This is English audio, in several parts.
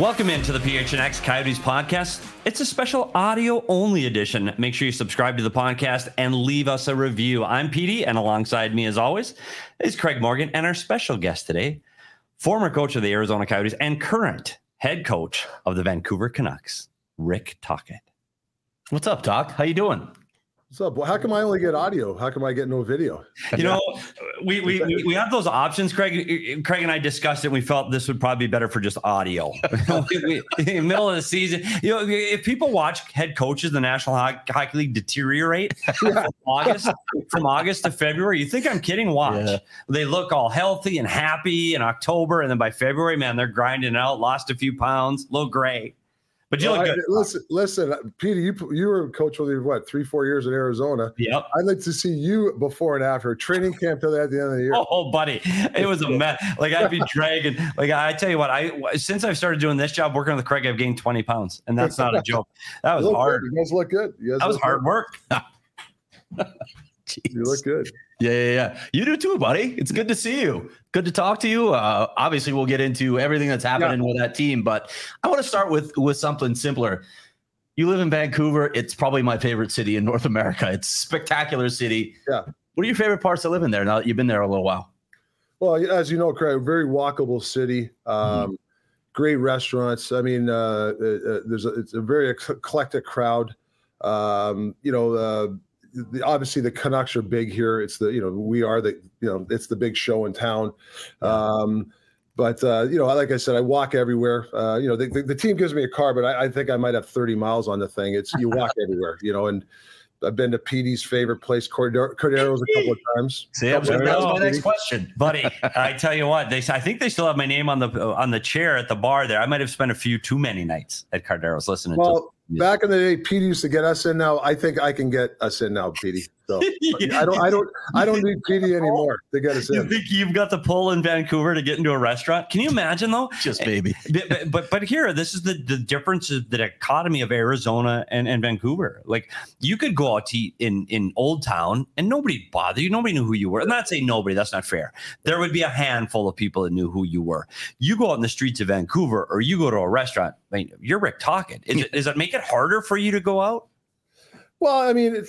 Welcome into the PHNX Coyotes podcast. It's a special audio-only edition. Make sure you subscribe to the podcast and leave us a review. I'm Petey, and alongside me, as always, is Craig Morgan, and our special guest today, former coach of the Arizona Coyotes and current head coach of the Vancouver Canucks, Rick Tocchet. What's up, Doc? How you doing? What's up? Well, how come I only get audio? How come I get no video? You know, we have those options, Craig. Craig and I discussed it. And we felt this would probably be better for just audio. In the middle of the season, you know, if people watch head coaches in the National Hockey League deteriorate from August to February, you think I'm kidding? Watch. Yeah. They look all healthy and happy in October, and then by February, man, they're grinding out, lost a few pounds, a little gray. But you look good. Listen, Peter, you were coach for 3-4 years in Arizona. Yep. I'd like to see you before and after training camp till at the end of the year. Oh, buddy, it was a mess. Like I'd be dragging. Like I tell you what, since I've started doing this job, working with Craig, I've gained 20 pounds, and that's not a joke. That was hard. Good. You guys look good. That was hard work. You look good. Yeah. You do too, buddy. It's good to see you. Good to talk to you. Obviously, we'll get into everything that's happening with that team, but I want to start with something simpler. You live in Vancouver. It's probably my favorite city in North America. It's a spectacular city. Yeah. What are your favorite parts of living there now that you've been there a little while? Well, as you know, Craig, very walkable city. Great restaurants. I mean, it's a very eclectic crowd. Obviously the Canucks are big here. It's it's the big show in town. But like I said, I walk everywhere. The team gives me a car, but I think I might have 30 miles on the thing. You walk everywhere, and I've been to Petey's favorite place, Cordero's, a couple of times. See, that was my next question, buddy. I tell you what, I think they still have my name on the chair at the bar there. I might have spent a few too many nights at Cordero's listening to. Back in the day, Petey used to get us in. Now I think I can get us in now, Petey. So I don't need Petey anymore to get us in. You think you've got the pull in Vancouver to get into a restaurant? Can you imagine though? Just maybe. But here, this is the difference of the dichotomy of Arizona and Vancouver. Like you could go out to eat in Old Town and nobody'd bother you. Nobody knew who you were. I'm not saying nobody. That's not fair. There would be a handful of people that knew who you were. You go out in the streets of Vancouver or you go to a restaurant. I mean, you're Rick Tocchet. Does it make it harder for you to go out? Well, I mean,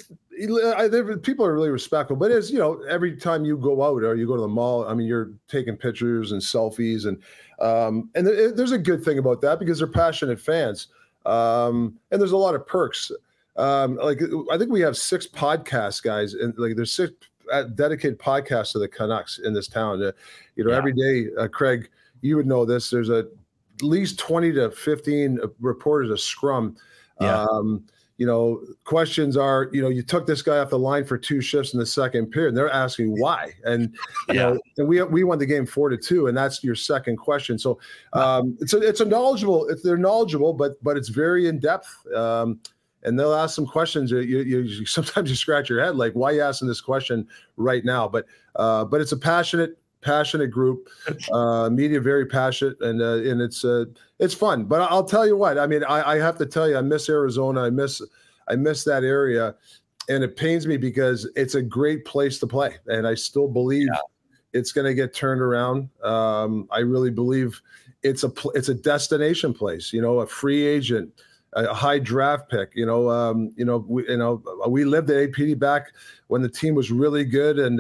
people are really respectful, but every time you go out or you go to the mall, I mean, you're taking pictures and selfies, and there's a good thing about that because they're passionate fans, and there's a lot of perks. I think we have 6 podcasts, guys, and there's 6 dedicated podcasts to the Canucks in this town. Every day, Craig, you would know this. There's at least 20 to 15 reporters a scrum. Yeah. Questions are, you took this guy off the line for 2 shifts in the second period, and they're asking why. And, and we won the game 4-2, and that's your second question. So they're knowledgeable, but it's very in depth. And they'll ask some questions. You sometimes you scratch your head, like, why are you asking this question right now? But it's a passionate group, media very passionate, and it's fun. But I'll tell you what, I mean, I have to tell you, I miss Arizona. I miss that area, and it pains me because it's a great place to play, and I still believe it's going to get turned around. I really believe it's a destination place. A free agent, a high draft pick. We lived at APD back when the team was really good, and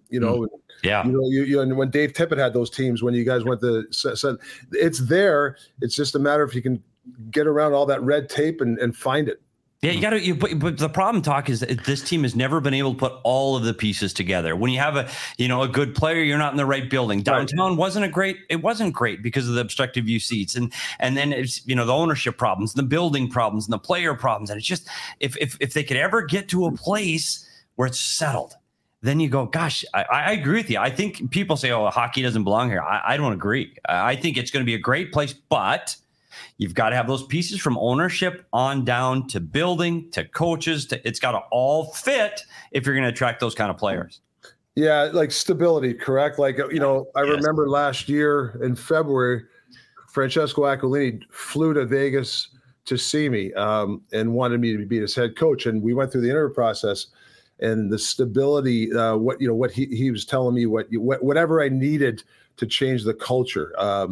and when Dave Tippett had those teams, when you guys went to, it's there. It's just a matter if you can get around all that red tape and find it. Yeah, you got to. But the problem, is that this team has never been able to put all of the pieces together. When you have a good player, you're not in the right building. Downtown wasn't great because of the obstructive view seats, and then it's the ownership problems, the building problems, and the player problems. And it's just if they could ever get to a place where it's settled, then you go, gosh, I agree with you. I think people say, oh, hockey doesn't belong here. I don't agree. I think it's going to be a great place, but you've got to have those pieces from ownership on down to building to coaches. It's got to all fit if you're going to attract those kind of players. Yeah, like stability, correct? I remember last year in February, Francesco Aquilini flew to Vegas to see me and wanted me to be his head coach. And we went through the interview process. And the stability, what he was telling me, whatever I needed to change the culture,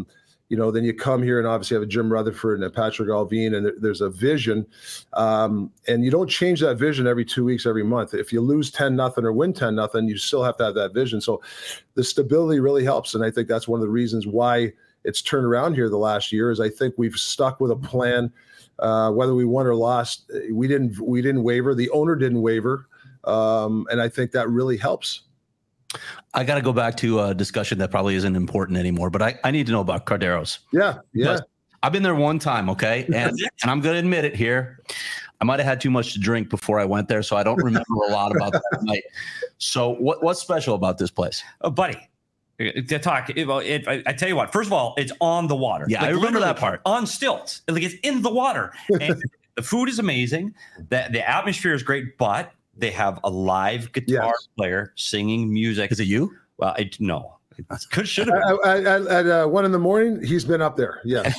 then you come here and obviously have a Jim Rutherford and a Patrick Alvin, and there's a vision. And you don't change that vision every 2 weeks, every month. If you lose 10-0 or win 10-0, you still have to have that vision. So the stability really helps. And I think that's one of the reasons why it's turned around here the last year is I think we've stuck with a plan. Whether we won or lost, we didn't waver. The owner didn't waver. And I think that really helps. I got to go back to a discussion that probably isn't important anymore, but I need to know about Cardeiros. Yeah. I've been there one time, okay? And I'm going to admit it here. I might have had too much to drink before I went there, so I don't remember a lot about that night. So what's special about this place? Oh, buddy. To talk, I tell you what. First of all, it's on the water. Yeah, I remember that part. On stilts, like it's in the water. And the food is amazing. The atmosphere is great, but they have a live guitar player singing music. Is it you? Well, no. Should have been. At 1 a.m, he's been up there. Yeah,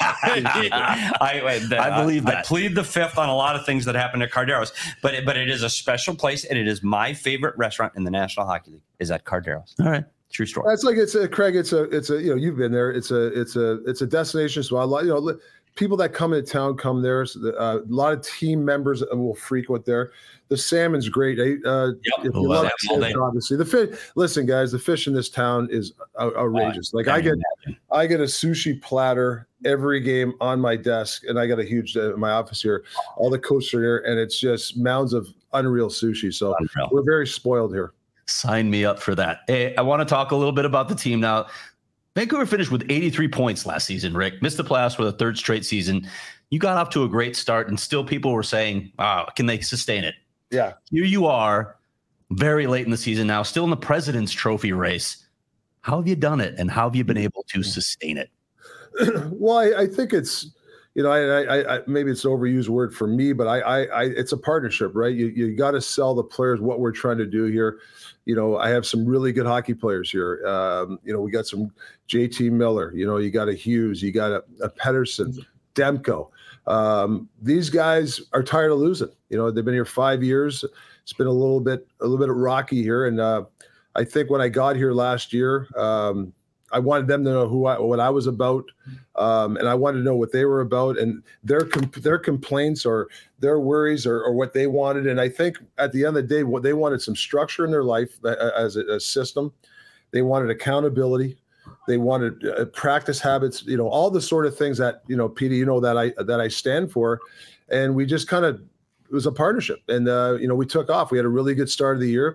I believe that. I plead the fifth on a lot of things that happen at Cardeiros, but it is a special place, and it is my favorite restaurant in the National Hockey League. Is at Cardeiros. All right. True story. It's like Craig. It's a you've been there. It's a destination. So a lot people that come into town come there. So a lot of team members will frequent there. The salmon's great. If you love fish, obviously the fish. Listen, guys, the fish in this town is outrageous. Like I get a sushi platter every game on my desk, and I got a huge my office here. All the coaches are here, and it's just mounds of unreal sushi. So we're very spoiled here. Sign me up for that. Hey, I want to talk a little bit about the team now. Vancouver finished with 83 points last season, Rick. Missed the playoffs for the third straight season. You got off to a great start, and still people were saying, can they sustain it? Yeah. Here you are, very late in the season now, still in the President's Trophy race. How have you done it, and how have you been able to sustain it? Well, I think it's, I maybe it's an overused word for me, but it's a partnership, right? You got to sell the players what we're trying to do here. I have some really good hockey players here. We got some JT Miller, you got a Hughes, you got a Pettersson, Demko. These guys are tired of losing. They've been here 5 years. It's been a little bit rocky here. And I think when I got here last year, I wanted them to know what I was about, and I wanted to know what they were about, and their complaints or their worries or what they wanted. And I think at the end of the day, what they wanted some structure in their life as a system. They wanted accountability. They wanted practice habits. All the sort of things that Petey, that I stand for, and we just kind of. It was a partnership, and we took off. We had a really good start of the year,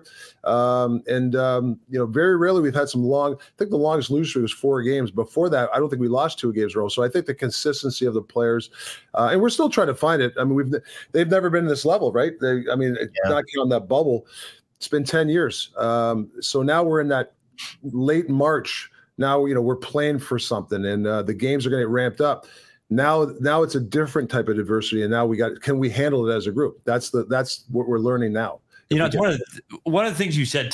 very rarely we've had some long. I think the longest losing streak was 4 games. Before that, I don't think we lost 2 games in a row. So I think the consistency of the players, and we're still trying to find it. I mean, they've never been in this level, right? Not counting that bubble. It's been 10 years. So now we're in that late March. Now we're playing for something, and the games are going to get ramped up. Now it's a different type of diversity, and now can we handle it as a group? That's what we're learning now. It's one of the things you said,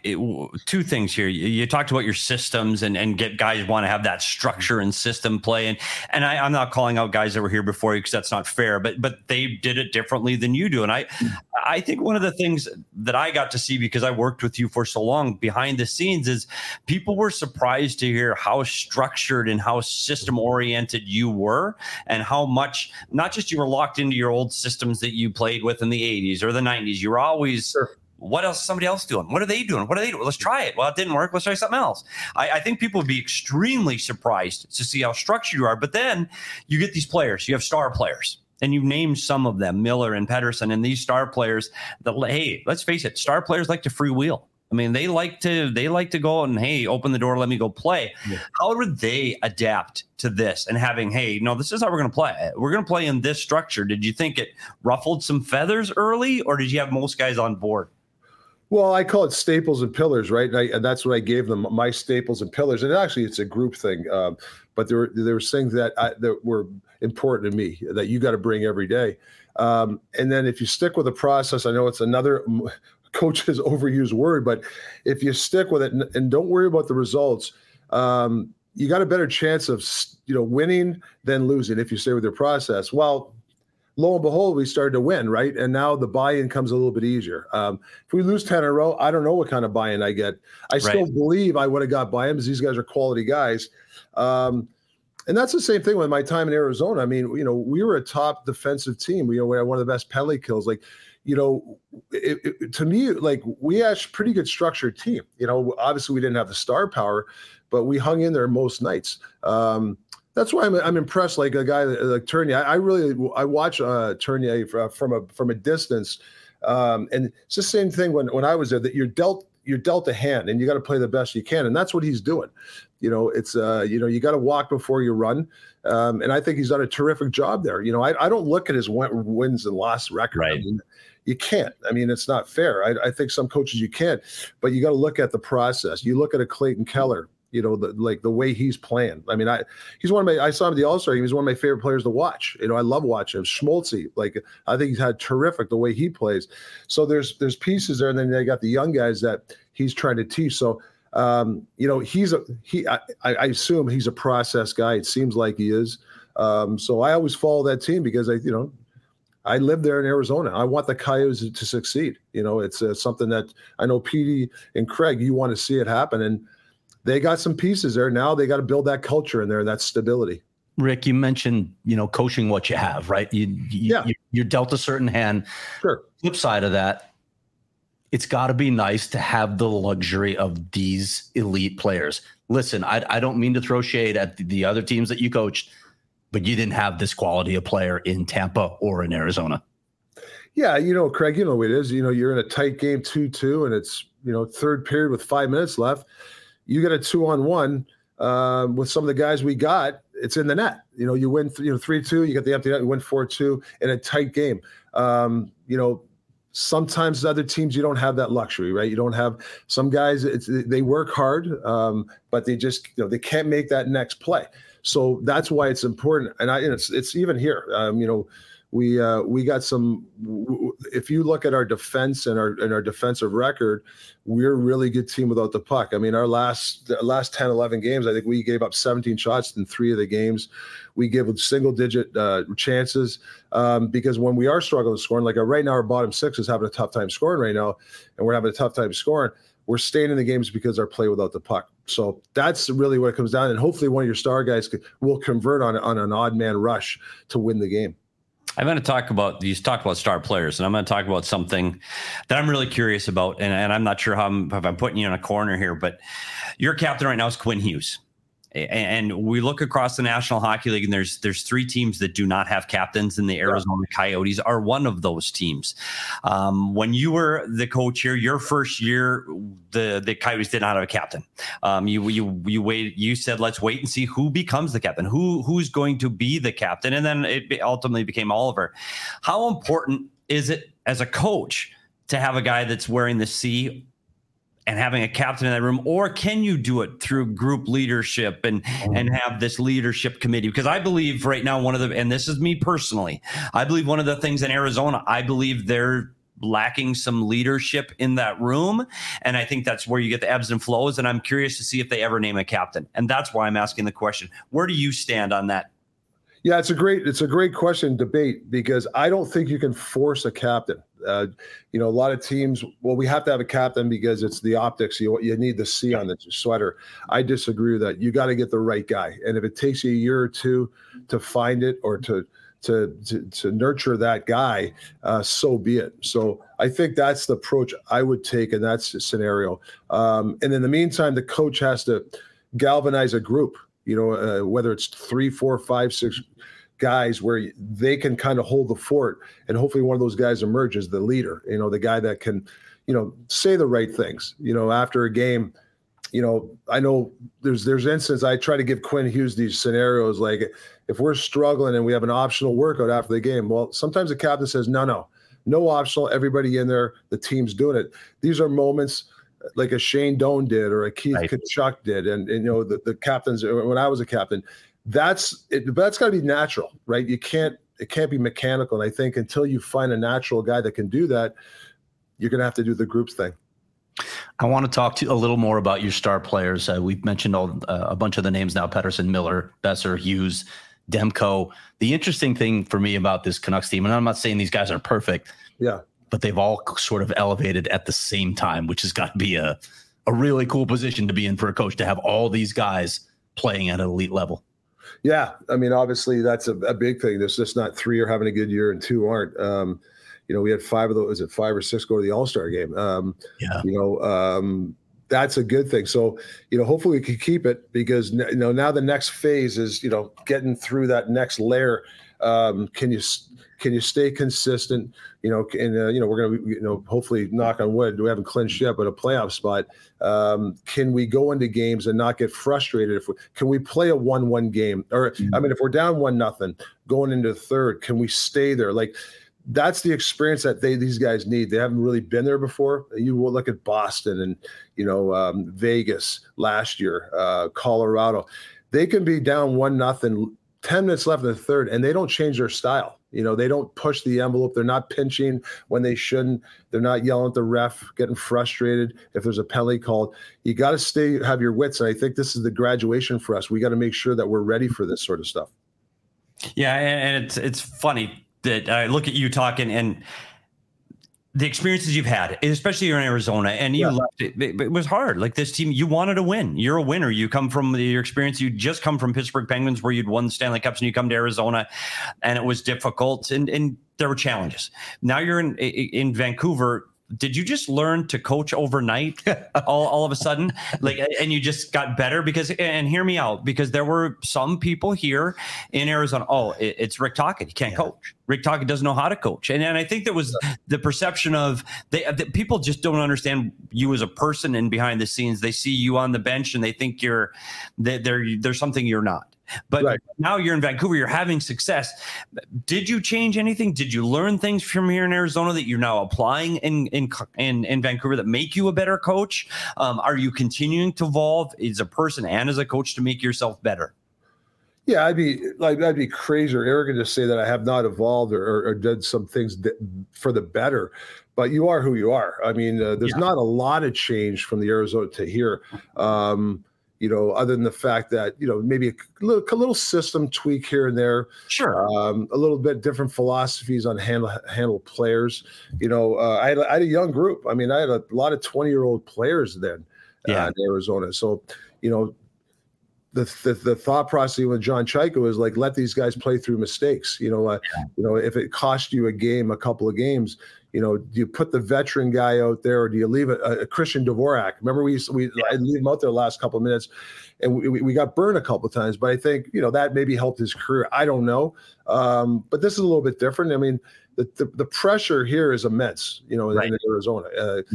2 things here. You talked about your systems and get guys want to have that structure and system play. And I'm not calling out guys that were here before you because that's not fair, but they did it differently than you do. And I think one of the things that I got to see because I worked with you for so long behind the scenes is people were surprised to hear how structured and how system oriented you were and how much, not just you were locked into your old systems that you played with in the 80s or the 90s. You were always, what else is somebody else doing? What are they doing? What are they doing? Let's try it. Well, it didn't work. Let's try something else. I think people would be extremely surprised to see how structured you are. But then you get these players. You have star players. And you named some of them, Miller and Pettersson, and these star players that, hey, let's face it, star players like to freewheel. I mean, they like to go and, hey, open the door, let me go play. Yeah. How would they adapt to this and having, hey, no, this is how we're going to play. We're going to play in this structure. Did you think it ruffled some feathers early, or did you have most guys on board? Well, I call it staples and pillars, right? And that's what I gave them, my staples and pillars. And actually, it's a group thing. But there were things that were important to me that you got to bring every day. And then if you stick with the process, I know it's another coach's overused word, but if you stick with it and don't worry about the results, you got a better chance of winning than losing if you stay with your process. Well, lo and behold, we started to win, right? And now the buy-in comes a little bit easier. If we lose 10 in a row, I don't know what kind of buy-in I get. I still believe I would have got buy-in because these guys are quality guys. And that's the same thing with my time in Arizona. I mean, we were a top defensive team. We had one of the best penalty kills. Like, to me, like, we had a pretty good structured team. Obviously we didn't have the star power, but we hung in there most nights. That's why I'm impressed. Like a guy like Tournier, I watch Tournier from a distance, and it's the same thing when I was there. That you're dealt a hand, and you got to play the best you can, and that's what he's doing. It's you got to walk before you run, and I think he's done a terrific job there. I don't look at his wins and loss record. Right. I mean, you can't. I mean, it's not fair. I think some coaches you can, but you got to look at the process. You look at a Clayton Keller. The way he's playing. I mean, I saw him at the All-Star. He was one of my favorite players to watch. I love watching him. Schmaltzy, I think he's had terrific the way he plays. So there's pieces there, and then they got the young guys that he's trying to teach. So I assume he's a process guy. It seems like he is. So I always follow that team because I live there in Arizona. I want the Coyotes to succeed. It's something that I know Petey and Craig, you want to see it happen. And they got some pieces there. Now they got to build that culture in there and that stability. Rick, you mentioned, coaching what you have, right? You're dealt a certain hand. Sure. Flip side of that, it's got to be nice to have the luxury of these elite players. Listen, I don't mean to throw shade at the other teams that you coached, but you didn't have this quality of player in Tampa or in Arizona. Yeah, Craig, you know what it is. You're in a tight game 2-2, and it's, third period with 5 minutes left. You get a 2-on-1 with some of the guys we got. It's in the net. You win 3-2. You get the empty net. You win 4-2 in a tight game. Sometimes other teams you don't have that luxury, right? You don't have some guys. They work hard, but they just they can't make that next play. So that's why it's important. And it's even here. We got some. If you look at our defense and our defensive record, we're a really good team without the puck. I mean, our last 10, 11 games, I think we gave up 17 shots in 3 of the games. We give single-digit chances because when we are struggling scoring, like right now, our bottom 6 is having a tough time scoring right now, and we're having a tough time scoring. We're staying in the games because our play without the puck. So that's really what it comes down. And hopefully, one of your star guys will convert on an odd man rush to win the game. I'm going to talk about, you talked about star players, and I'm going to talk about something that I'm really curious about. And I'm not sure if I'm putting you in a corner here, but your captain right now is Quinn Hughes. And we look across the National Hockey League, and there's 3 teams that do not have captains, and the Arizona Coyotes are one of those teams. When you were the coach here, your first year, the Coyotes did not have a captain. You said, let's wait and see who becomes the captain, who's going to be the captain, and then it ultimately became Oliver. How important is it as a coach to have a guy that's wearing the C and having a captain in that room, or can you do it through group leadership and have this leadership committee? Because I believe right now and this is me personally, I believe one of the things in Arizona, I believe they're lacking some leadership in that room. And I think that's where you get the ebbs and flows. And I'm curious to see if they ever name a captain. And that's why I'm asking the question. Where do you stand on that? Yeah, it's a great question, debate, because I don't think you can force a captain. A lot of teams, we have to have a captain because it's the optics. You need the C on the sweater. I disagree with that. You got to get the right guy. And if it takes you a year or two to find it or to nurture that guy, so be it. So I think that's the approach I would take in that scenario. And in the meantime, the coach has to galvanize a group, whether it's 3, 4, 5, 6 guys where they can kind of hold the fort, and hopefully one of those guys emerges the leader, the guy that can, say the right things, after a game. I know there's instances I try to give Quinn Hughes these scenarios, like if we're struggling and we have an optional workout after the game, well, sometimes the captain says, no optional, everybody in there, the team's doing it. These are moments like a Shane Doan did or a Keith Tkachuk did. And the captains, when I was a captain, that's got to be natural, right? It can't be mechanical. And I think until you find a natural guy that can do that, you're going to have to do the groups thing. I want to talk to you a little more about your star players. We've mentioned a bunch of the names now: Pettersson, Miller, Besser, Hughes, Demko. The interesting thing for me about this Canucks team, and I'm not saying these guys are perfect, but they've all sort of elevated at the same time, which has got to be a really cool position to be in for a coach, to have all these guys playing at an elite level. Yeah, I mean, obviously that's a big thing. There's just not 3 are having a good year and 2 aren't. We had 5 of those. Is it 5 or 6 go to the All-Star game? That's a good thing. So, hopefully we can keep it because, now the next phase is, getting through that next layer. Can you stay consistent? We're going to, hopefully, knock on wood, we haven't clinched yet, but a playoff spot. Can we go into games and not get frustrated? Can we play a 1-1 game? Or, if we're down 1-0 going into the third, can we stay there? Like, that's the experience that these guys need. They haven't really been there before. You will look at Boston and, Vegas last year, Colorado. They can be down 1-0, 10 minutes left in the third, and they don't change their style. They don't push the envelope. They're not pinching when they shouldn't. They're not yelling at the ref, getting frustrated if there's a penalty called. You got to have your wits. And I think this is the graduation for us. We got to make sure that we're ready for this sort of stuff. Yeah, and it's funny that I look at you talking and the experiences you've had, especially you're in Arizona, and you left it. It was hard. Like this team, you wanted to win. You're a winner. You come from your experience. You just come from Pittsburgh Penguins, where you'd won the Stanley Cups, and you come to Arizona, and it was difficult, and there were challenges. Now you're in Vancouver. Did you just learn to coach overnight all of a sudden? And you just got better and hear me out, because there were some people here in Arizona. Oh, it's Rick Tocchet. He can't coach. Rick Tocchet doesn't know how to coach. And I think there was the perception of that people just don't understand you as a person and behind the scenes. They see you on the bench and they think there's something you're not. But now you're in Vancouver, you're having success. Did you change anything? Did you learn things from here in Arizona that you're now applying in Vancouver that make you a better coach? Are you continuing to evolve as a person and as a coach to make yourself better? Yeah, I'd be crazy or arrogant to say that I have not evolved or did some things for the better. But you are who you are. I mean, there's not a lot of change from the Arizona to here. Other than the fact that, maybe a little system tweak here and there. Sure. A little bit different philosophies on handle players. I had a young group. I mean, I had a lot of 20-year-old players then in Arizona. So, the thought process with John Chayka is like, let these guys play through mistakes. If it cost you a couple of games, do you put the veteran guy out there, or do you leave a Christian Dvorak? Remember, I'd leave him out there the last couple of minutes, and we got burned a couple of times. But I think that maybe helped his career. I don't know, but this is a little bit different. I mean, the pressure here is immense. In Arizona.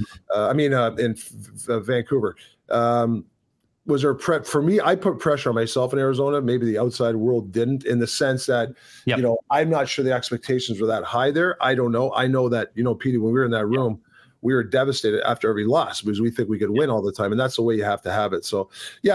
In Vancouver. Was there prep for me? I put pressure on myself in Arizona. Maybe the outside world didn't, in the sense that, I'm not sure the expectations were that high there. I don't know. I know that, Petey, when we were in that room, we were devastated after every loss because we think we could win all the time. And that's the way you have to have it. So,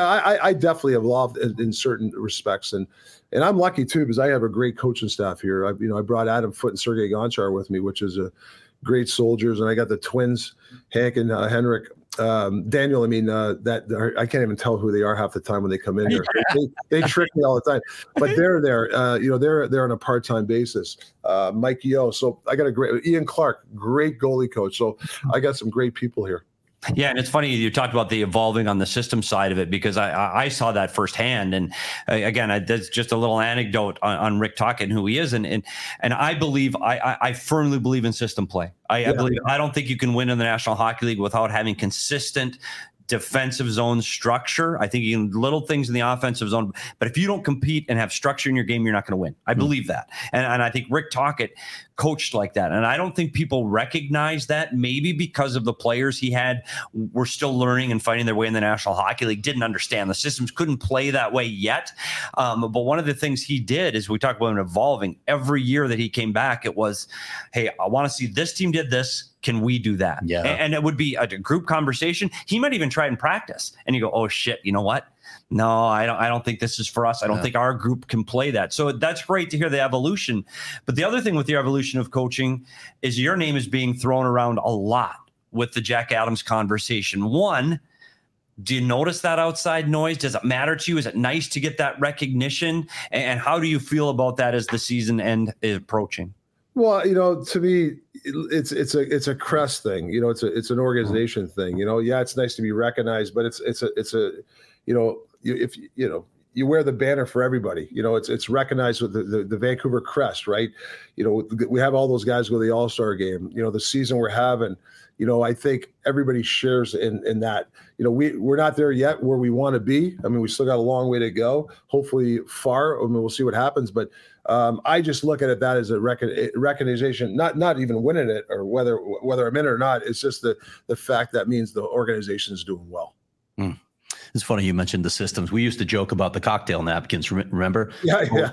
I definitely evolved in certain respects. And I'm lucky too, because I have a great coaching staff here. I brought Adam Foote and Sergei Gonchar with me, which is a great soldiers. And I got the twins, Hank and Henrik. Daniel, that I can't even tell who they are half the time when they come in here. They trick me all the time, but they're there. They're on a part-time basis. Mike Yeo. So I got Ian Clark, great goalie coach. So I got some great people here. Yeah, and it's funny you talked about the evolving on the system side of it, because I saw that firsthand. And again, that's just a little anecdote on Rick Tocchet and who he is, and I believe I firmly believe in system play. I don't think you can win in the National Hockey League without having consistent defensive zone structure. I think you can little things in the offensive zone, but if you don't compete and have structure in your game, you're not going to win. I believe that. And I think Rick Tocchet coached like that. And I don't think people recognize that, maybe because of the players he had were still learning and fighting their way in the National Hockey League, didn't understand the systems, couldn't play that way yet. But one of the things he did is, we talk about him evolving every year that he came back. It was, hey, I want to see this team did this. Can we do that? Yeah. And it would be a group conversation. He might even try and practice, and you go, oh shit, you know what? No, I don't think this is for us. I don't think our group can play that. So that's great to hear the evolution. But the other thing with the evolution of coaching is your name is being thrown around a lot with the Jack Adams conversation. One, do you notice that outside noise? Does it matter to you? Is it nice to get that recognition? And how do you feel about that as the season end is approaching? Well, to me, it's a crest thing. It's an organization thing. It's nice to be recognized, but it's a if you wear the banner for everybody. It's recognized with the Vancouver crest, right? We have all those guys go to the All-Star game. The season we're having. I think everybody shares in that. We're not there yet where we want to be. I mean, we still got a long way to go. Hopefully far. I mean, we'll see what happens. But I just look at that as a recognition, not even winning it or whether I'm in it or not. It's just the fact that means the organization is doing well. Mm. It's funny you mentioned the systems. We used to joke about the cocktail napkins. Remember? Yeah.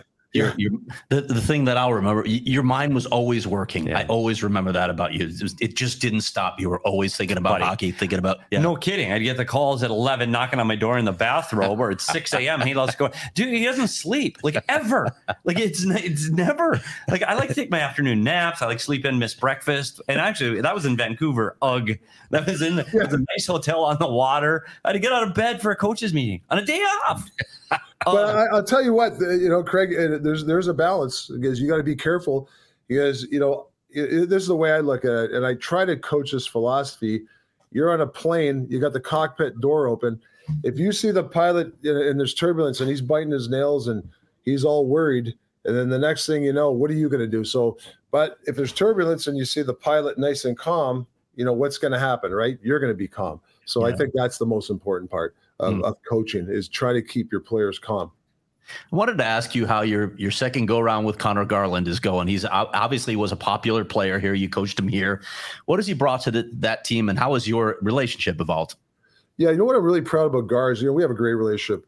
The thing that I'll remember, your mind was always working. Yeah. I always remember that about you. It just didn't stop. You were always thinking about hockey, thinking about. Yeah. No kidding. I'd get the calls at 11, knocking on my door in the bathrobe, or it's 6 a.m. He loves going. Dude, he doesn't sleep ever. It's never I like to take my afternoon naps. I like sleep in, miss breakfast. And actually, that was in Vancouver. Ugh. That was it was a nice hotel on the water. I had to get out of bed for a coach's meeting on a day off. But I'll tell you what, Craig, there's a balance because you got to be careful because, this is the way I look at it. And I try to coach this philosophy. You're on a plane, you got the cockpit door open. If you see the pilot and there's turbulence and he's biting his nails and he's all worried, and then the next thing you know, what are you going to do? So, but if there's turbulence and you see the pilot nice and calm, what's going to happen, right? You're going to be calm. So I think that's the most important part of coaching is try to keep your players calm. I wanted to ask you how your second go around with Connor Garland is going. He's obviously was a popular player here. You coached him here. What has he brought to that team, and how has your relationship evolved? Yeah, what I'm really proud about Gars, we have a great relationship.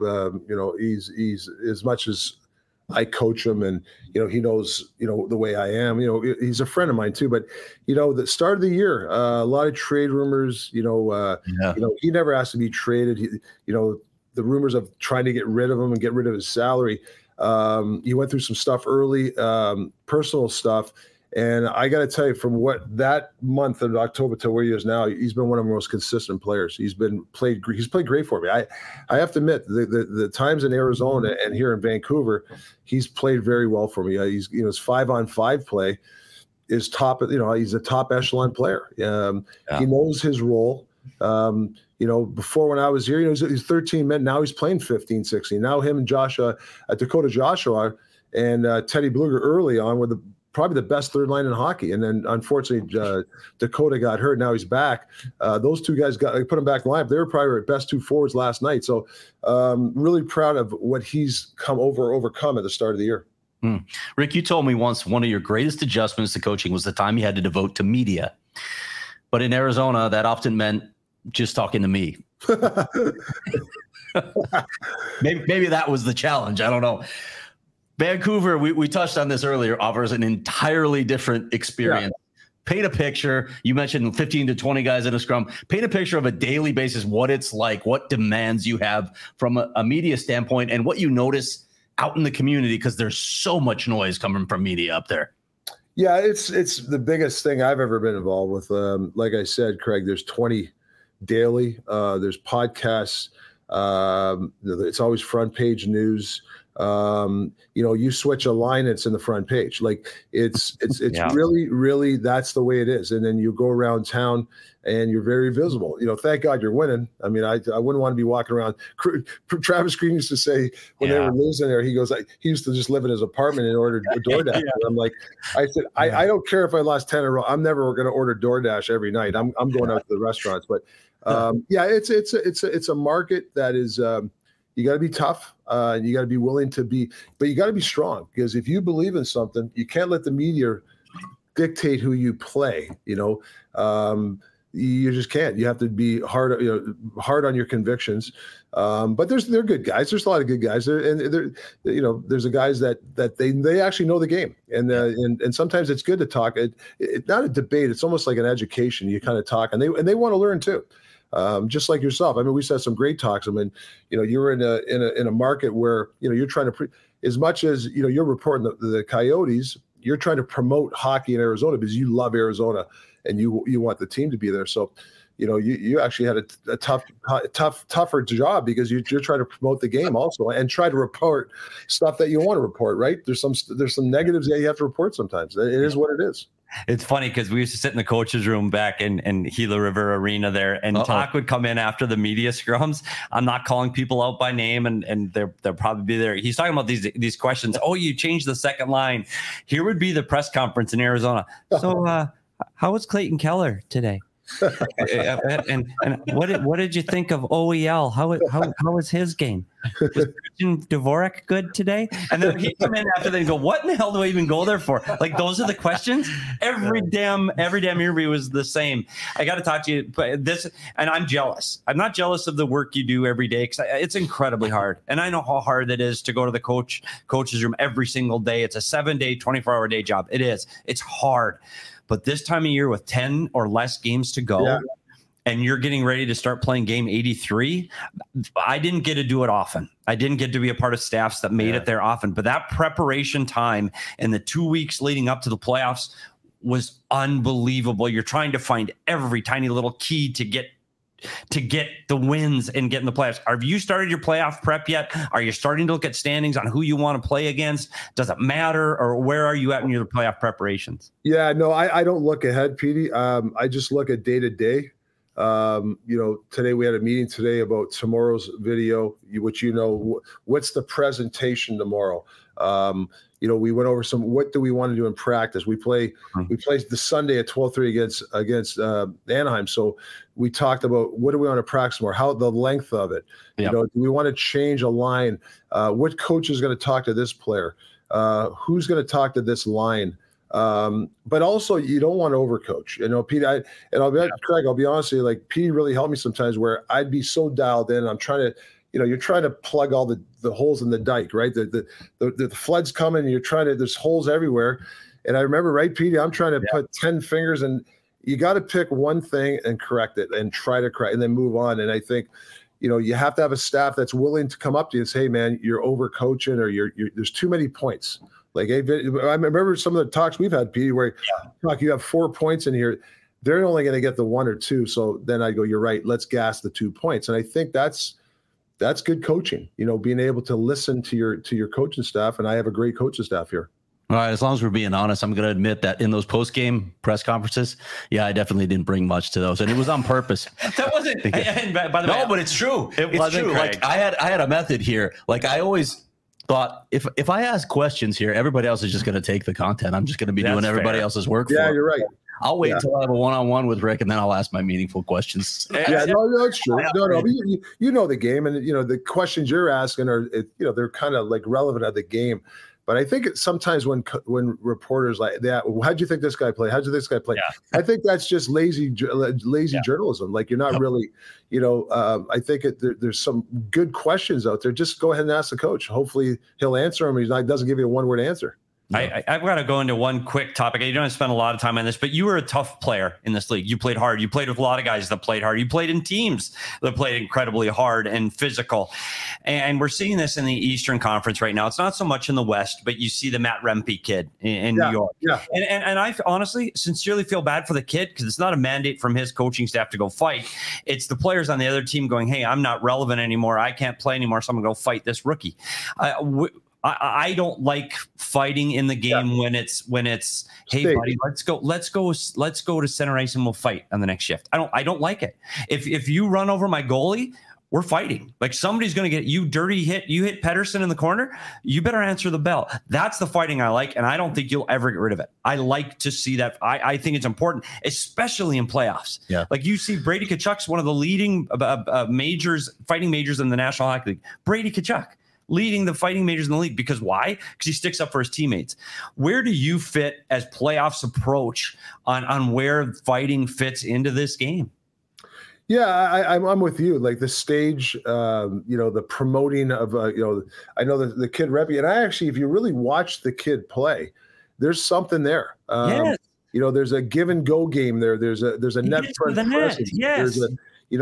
He's as much as I coach him and, he knows, the way I am, he's a friend of mine too, but, the start of the year, a lot of trade rumors, he never asked to be traded. The rumors of trying to get rid of him and get rid of his salary. He went through some stuff early, personal stuff. And I got to tell you, from what that month of October to where he is now, he's been one of the most consistent players. He's played great for me. I have to admit, the times in Arizona and here in Vancouver, he's played very well for me. He's his 5-on-5 play is top. He's a top echelon player. He knows his role. Before when I was here, he's 13 men. Now he's playing 15, 16. Now him and Dakota Joshua and Teddy Bluger early on were probably the best third line in hockey. And then unfortunately, Dakota got hurt. Now he's back. Those two guys put him back in line. They were probably our best two forwards last night. So really proud of what he's overcome at the start of the year. Rick, you told me once one of your greatest adjustments to coaching was the time you had to devote to media. But in Arizona, that often meant just talking to me. maybe that was the challenge. I don't know. Vancouver, we touched on this earlier, offers an entirely different experience. Yeah. Paint a picture. You mentioned 15 to 20 guys in a scrum. Paint a picture of a daily basis, what it's like, what demands you have from a media standpoint, and what you notice out in the community, because there's so much noise coming from media up there. Yeah, it's the biggest thing I've ever been involved with. Like I said, Craig, there's 20 daily. There's podcasts. It's always front page news. You switch a line, it's in the front page. Like it's really that's the way it is. And then you go around town and you're very visible. Thank God you're winning. I mean, I wouldn't want to be walking around. Travis Green used to say when they were losing there, he goes, he used to just live in his apartment and order DoorDash. I'm like, I said, I don't care if I lost 10 in a row. I'm never going to order DoorDash every night. I'm going out to the restaurants. But it's a market that is, you got to be tough. You got to be willing to be, but you got to be strong, because if you believe in something, you can't let the media dictate who you play. You just can't. You have to be hard on your convictions. But they're good guys. There's a lot of good guys there, and there's the guys that they actually know the game, and sometimes it's good to talk. It's not a debate. It's almost like an education. You kind of talk, and they want to learn too. Just like yourself. I mean, we said some great talks. I mean, you're in a market where, you're trying to as much as, you're reporting the Coyotes, you're trying to promote hockey in Arizona because you love Arizona and you want the team to be there. So, you actually had a tougher job because you're trying to promote the game also and try to report stuff that you want to report, right? There's some negatives that you have to report sometimes. It is what it is. It's funny because we used to sit in the coach's room back in Gila River Arena there, and Talk would come in after the media scrums. I'm not calling people out by name, and they'll probably be there. He's talking about these questions. Oh, you changed the second line. Here would be the press conference in Arizona. So how was Clayton Keller today? and what did you think of OEL? How was his game? Was Christian Dvorak good today? And then he'd come in after that and go, what in the hell do I even go there for? Like, those are the questions. Every damn interview was the same. I got to talk to you, but and I'm jealous. I'm not jealous of the work you do every day, because it's incredibly hard. And I know how hard it is to go to the coach's room every single day. It's a 7-day, 24-hour day job. It is. It's hard. But this time of year with 10 or less games to go, and you're getting ready to start playing game 83, I didn't get to do it often. I didn't get to be a part of staffs that made it there often. But that preparation time and the 2 weeks leading up to the playoffs was unbelievable. You're trying to find every tiny little key to get the wins and get in the playoffs. Have you started your playoff prep yet? Are you starting to look at standings on who you want to play against? Does it matter, or where are you at in your playoff preparations? Yeah, no, I don't look ahead, Petey. I just look at day to day. Today we had a meeting today about tomorrow's video, which, what's the presentation tomorrow? We went over what do we want to do in practice? We play the Sunday at 12:30 against Anaheim. So we talked about what do we want to practice more? How the length of it? Yep. Do we want to change a line? What coach is going to talk to this player? Who's going to talk to this line? But also you don't want to overcoach. Pete, Craig, I'll be honest with you, like Pete really helped me sometimes where I'd be so dialed in. I'm trying to, you're trying to plug all the holes in the dike, right? The flood's coming, and there's holes everywhere. And I remember, right, Pete, I'm trying to put 10 fingers, and you got to pick one thing and correct it and try to correct and then move on. And I think, you have to have a staff that's willing to come up to you and say, hey man, you're overcoaching, or there's too many points. Like, I remember some of the talks we've had, Pete, where you have 4 points in here. They're only going to get the 1 or 2. So then I go, you're right. Let's gas the 2 points. And I think that's good coaching, being able to listen to your coaching staff. And I have a great coaching staff here. All right. As long as we're being honest, I'm going to admit that in those post-game press conferences, I definitely didn't bring much to those, and it was on purpose. That wasn't. By the way, no, but it's true. It's wasn't true. Craig. Like I had a method here. Like I always thought, if I ask questions here, everybody else is just going to take the content. I'm just going to be doing everybody else's work. Yeah, you're right. I'll wait until I have a one-on-one with Rick, and then I'll ask my meaningful questions. Yeah, no, that's true. No, but you know the game, and the questions you're asking are, they're kind of like relevant of the game. But I think sometimes when reporters like that, how'd you think this guy played? How'd you think this guy played? Yeah. I think that's just lazy journalism. Like, you're not really, I think there's some good questions out there. Just go ahead and ask the coach. Hopefully he'll answer them. He doesn't give you a one-word answer. I've got to go into one quick topic. You don't have to spend a lot of time on this, but you were a tough player in this league. You played hard. You played with a lot of guys that played hard. You played in teams that played incredibly hard and physical. And we're seeing this in the Eastern Conference right now. It's not so much in the West, but you see the Matt Rempe kid in New York. Yeah. And I honestly, sincerely feel bad for the kid, because it's not a mandate from his coaching staff to go fight. It's the players on the other team going, hey, I'm not relevant anymore. I can't play anymore. So I'm going to go fight this rookie. I don't like fighting in the game when it's hey buddy, let's go to center ice and we'll fight on the next shift. I don't like it. If you run over my goalie, we're fighting. Like, somebody's going to get you dirty hit. You hit Pettersson in the corner, you better answer the bell. That's the fighting I like, and I don't think you'll ever get rid of it. I like to see that. I think it's important, especially in playoffs. Yeah. Like, you see Brady Tkachuk's one of the leading fighting majors in the National Hockey League. Brady Tkachuk leading the fighting majors in the league. Because why? Because he sticks up for his teammates. Where do you fit as playoffs approach on where fighting fits into this game? Yeah, I'm with you. Like the stage, the promoting of, I know the kid Rempe, and I actually, if you really watch the kid play, there's something there. Yes. There's a give and go game there. There's a net front presence. Yes. There's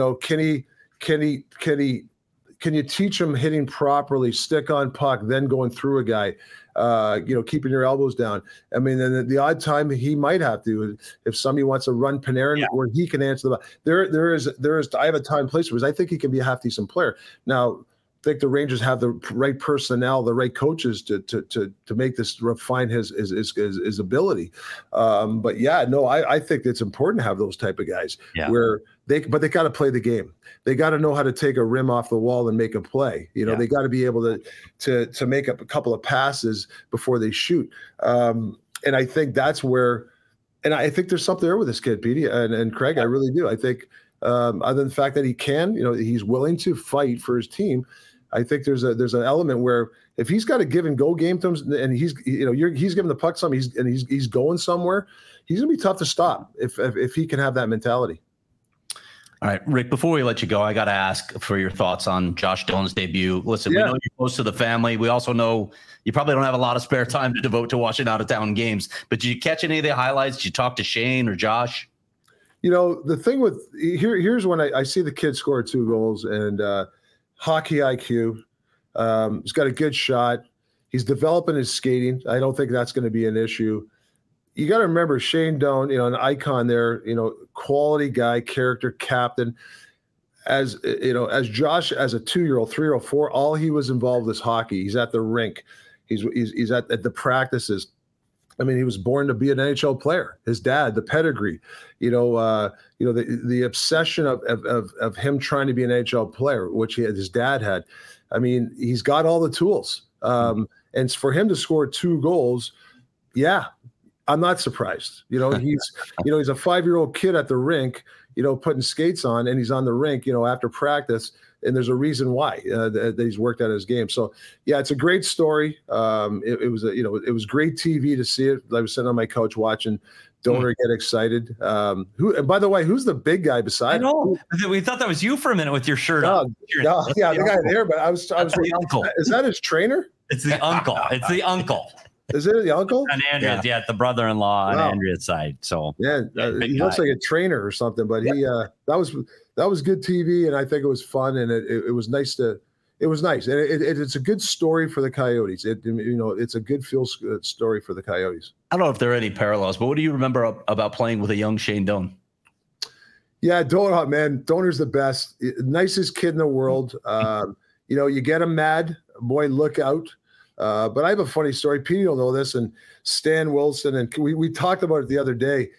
can you teach him hitting properly, stick on puck, then going through a guy, keeping your elbows down. I mean, then the odd time he might have to, if somebody wants to run Panarin where he can answer the ball. There is, I have a time and place because I think he can be a half decent player. Now, think the Rangers have the right personnel, the right coaches to make this refine his ability. But yeah, no, I think it's important to have those type of guys where they got to play the game. They got to know how to take a rim off the wall and make a play. They got to be able to make up a couple of passes before they shoot. And I think that's where, and I think there's something there with this kid, Petey and Craig. I really do. I think other than the fact that he can, he's willing to fight for his team. I think there's an element where if he's got a give and go game to him, and he's giving the puck some, he's going somewhere, he's gonna be tough to stop if he can have that mentality. All right, Rick, before we let you go, I got to ask for your thoughts on Josh Doan's debut. Listen, we know you're close to the family. We also know you probably don't have a lot of spare time to devote to watching out-of-town games. But did you catch any of the highlights? Did you talk to Shane or Josh? The thing with here's when I see the kid score 2 goals and hockey IQ. He's got a good shot. He's developing his skating. I don't think that's going to be an issue. You got to remember Shane Doan, an icon there, quality guy, character, captain. As Josh, as a 2-year-old, 3-year-old, 4, all he was involved is hockey. He's at the rink. He's at the practices. I mean, he was born to be an NHL player. His dad, the pedigree, the obsession of him trying to be an NHL player, which his dad had. I mean, he's got all the tools. And for him to score 2 goals, I'm not surprised. He's a 5-year-old kid at the rink, putting skates on, and he's on the rink, after practice. And there's a reason why that he's worked at his game. So it's a great story. It was great TV to see it. I was sitting on my couch watching Donor get excited. And by the way, who's the big guy beside him? I know. We thought that was you for a minute with your shirt on. The guy there, but I was the uncle. Is that his trainer? It's the uncle. It's the uncle. Is it the uncle? On Andrea, the brother-in-law on Andrea's side. So he looks like a trainer or something. But he that was good TV, and I think it was fun, and it was nice it was nice, and it's a good story for the Coyotes. It's a good feel story for the Coyotes. I don't know if there are any parallels, but what do you remember about playing with a young Shane Doan? Yeah, Donor, man, Donor's the best, nicest kid in the world. You get him mad, boy, look out. But I have a funny story. Petey will know this, and Stan Wilson, and we talked about it the other day.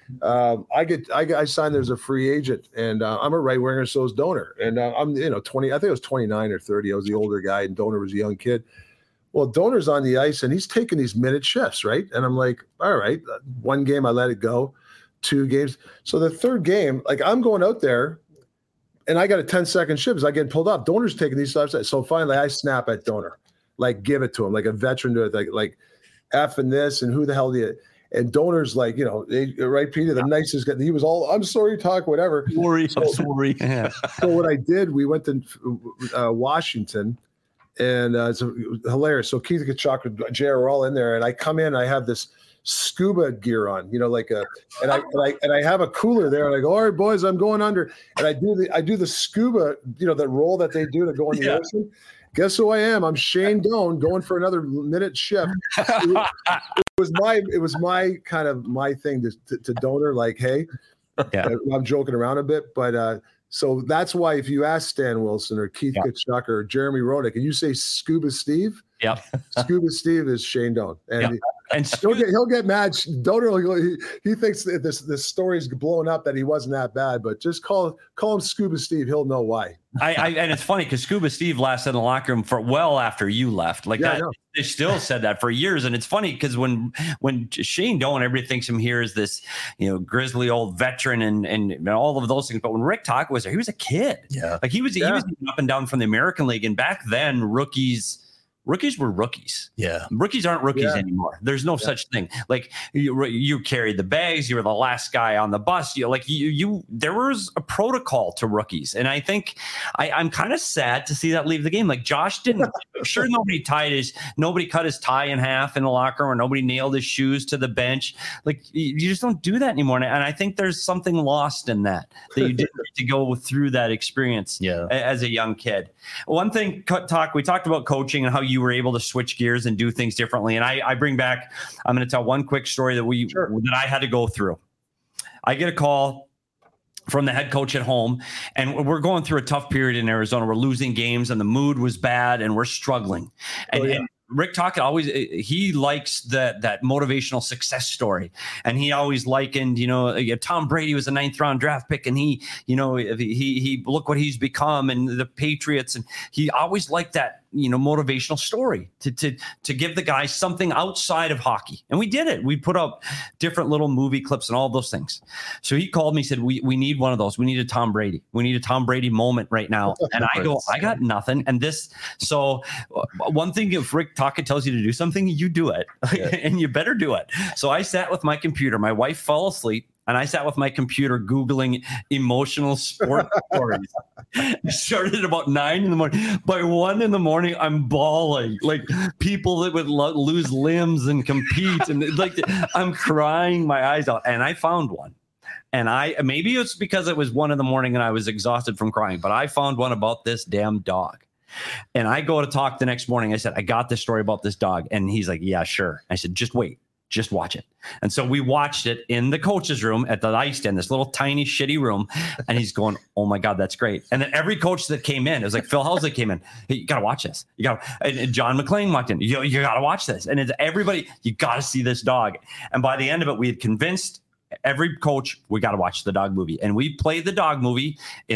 I signed there as a free agent, and I'm a right winger, so is Donor, and I'm 20. I think I was 29 or 30. I was the older guy, and Donor was a young kid. Well, Donor's on the ice, and he's taking these minute shifts, right? And I'm like, all right, 1 game I let it go, 2 games. So the 3rd game, like I'm going out there, and I got a 10-second shift as I get pulled off. Donor's taking these stuff. So finally, I snap at Donor. Like give it to him, like a veteran to it, like F and this, and who the hell do you? And Donor's like, right, Peter, the nicest guy. He was all, I'm sorry, talk, whatever. I'm sorry. So what I did, we went to Washington, and it was hilarious. So Keith Tkachuk and J.R. were all in there, and I come in, I have this scuba gear on, and I have a cooler there, and I go, all right, boys, I'm going under, and I do the scuba, the roll that they do to go in the ocean. Guess who I am? I'm Shane Doan going for another minute shift. It was my kind of my thing to Donor, like, hey, I'm joking around a bit, but so that's why if you ask Stan Wilson or Keith Tkachuk or Jeremy Roenick and you say Scuba Steve, Scuba Steve is Shane Doan, and he'll get mad. Donor, he thinks that this story's blown up that he wasn't that bad, but just call him Scuba Steve. He'll know why. And it's funny because Scuba Steve lasted in the locker room for well after you left. Like that, they still said that for years. And it's funny because when Shane Doan, everybody thinks him here as this, grizzly old veteran and all of those things. But when Rick Tocchet was there, he was a kid. Yeah, like he was up and down from the American League, and back then rookies were rookies. Yeah. Rookies aren't rookies anymore. There's no such thing. Like you carried the bags. You were the last guy on the bus. There was a protocol to rookies. And I think I'm kind of sad to see that leave the game. Like Josh didn't, sure. Nobody cut his tie in half in the locker room, or nobody nailed his shoes to the bench. Like you just don't do that anymore. And I think there's something lost in that you didn't get to go through that experience as a young kid. One thing, we talked about coaching and how you were able to switch gears and do things differently. And I bring back, I'm going to tell one quick story that I had to go through. I get a call from the head coach at home. And we're going through a tough period in Arizona. We're losing games and the mood was bad and we're struggling. And Rick Tocchet he likes that motivational success story. And he always likened, Tom Brady was a 9th round draft pick and he look what he's become and the Patriots. And he always liked that, motivational story to give the guys something outside of hockey. And we did it. We put up different little movie clips and all those things. So he called me, said, we need one of those. We need a Tom Brady. We need a Tom Brady moment right now. And I go, I got nothing. And so one thing, if Rick Tocchet tells you to do something, you do it. And you better do it. So I sat with my computer. My wife fell asleep. And I sat with my computer Googling emotional sport stories. It started at about 9 in the morning. By 1 in the morning, I'm bawling. Like people that would lose limbs and compete. And I'm crying my eyes out. And I found one. And maybe it's because it was 1 in the morning and I was exhausted from crying. But I found one about this damn dog. And I go to talk the next morning. I said, I got this story about this dog. And he's like, yeah, sure. I said, just wait. Just watch it. And so we watched it in the coach's room at the ice den, this little tiny shitty room. And he's going, oh my God, that's great. And then every coach that came in, it was like Phil Housley came in. Hey, you got to watch this. And John McClain walked in. You got to watch this. And it's everybody, you got to see this dog. And by the end of it, we had convinced every coach, we got to watch the dog movie. And we played the dog movie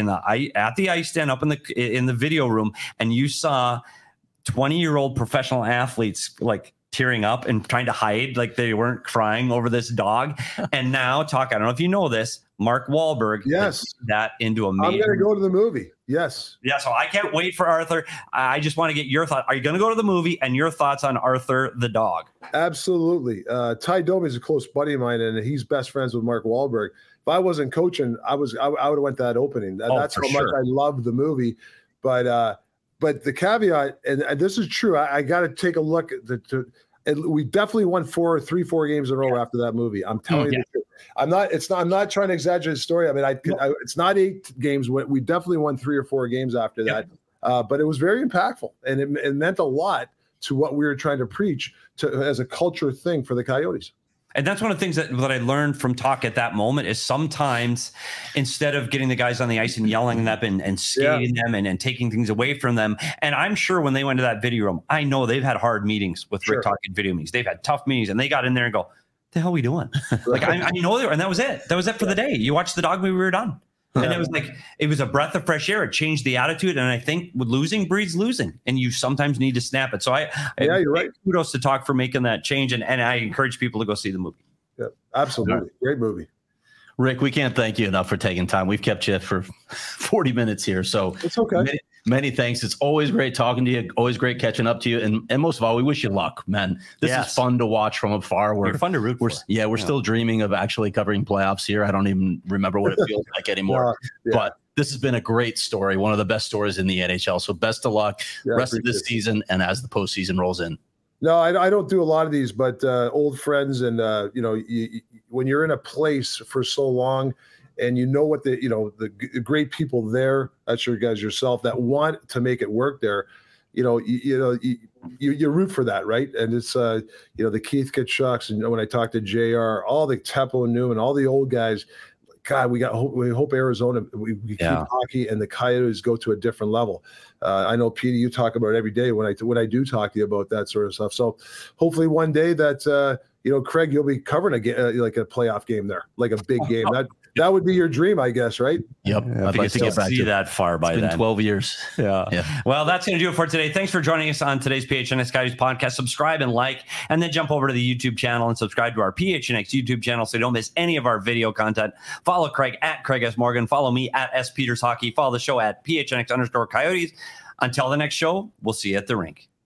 at the ice den up in the video room. And you saw 20-year-old professional athletes tearing up and trying to hide, like they weren't crying over this dog. And now I don't know if you know this, Mark Wahlberg, that into a major. I'm going to go to the movie. Yes. Yeah. So I can't wait for Arthur. I just want to get your thought. Are you going to go to the movie and your thoughts on Arthur the dog? Absolutely. Ty Domi is a close buddy of mine and he's best friends with Mark Wahlberg. If I wasn't coaching, I would have went to that opening. That's how much I love the movie. But the caveat, and this is true, I got to take a look at we definitely won 4 games in a row after that movie. I'm telling you the truth. I'm not trying to exaggerate the story. I mean, it's not 8 games. We definitely won 3 or 4 games after that. But it was very impactful and it meant a lot to what we were trying to preach as a culture thing for the Coyotes. And that's one of the things that I learned from Talk at that moment is sometimes instead of getting the guys on the ice and yelling at them and skating them and taking things away from them. And I'm sure when they went to that video room, I know they've had hard meetings with Rick Talk video meetings. They've had tough meetings and they got in there and go, the hell are we doing? I know they were, and that was it. That was it for the day. You watched the dog movie, we were done. And it was a breath of fresh air. It changed the attitude. And I think with losing breeds losing. And you sometimes need to snap it. So you're right. Kudos to Talk for making that change. And I encourage people to go see the movie. Yeah, absolutely. Great movie. Rick, we can't thank you enough for taking time. We've kept you for 40 minutes here. So it's okay. Many thanks. It's always great talking to you. Always great catching up to you. And most of all, we wish you luck, man. This is fun to watch from afar. You're fun to root for. We're still dreaming of actually covering playoffs here. I don't even remember what it feels like anymore. But this has been a great story. One of the best stories in the NHL. So best of luck rest of this season and as the postseason rolls in. No, I don't do a lot of these, but old friends and, when you're in a place for so long and you know what the great people there, that's your guys yourself that want to make it work there, you root for that, right? And it's, the Keith Tkachuk's, and when I talk to JR, all the Teppo Newman, all the old guys, God, we hope Arizona, we keep hockey and the Coyotes go to a different level. I know, Petey, you talk about it every day when I do talk to you about that sort of stuff. So hopefully one day that, Craig, you'll be covering like a playoff game there, like a big game. That would be your dream, I guess, right? Yep. I'd like to get back to that far by then. It's been 12 years. Yeah. Well, that's going to do it for today. Thanks for joining us on today's PHNX Coyotes podcast. Subscribe and like, and then jump over to the YouTube channel and subscribe to our PHNX YouTube channel so you don't miss any of our video content. Follow Craig at Craig S. Morgan. Follow me at S. Peters Hockey. Follow the show at PHNX_Coyotes. Until the next show, we'll see you at the rink.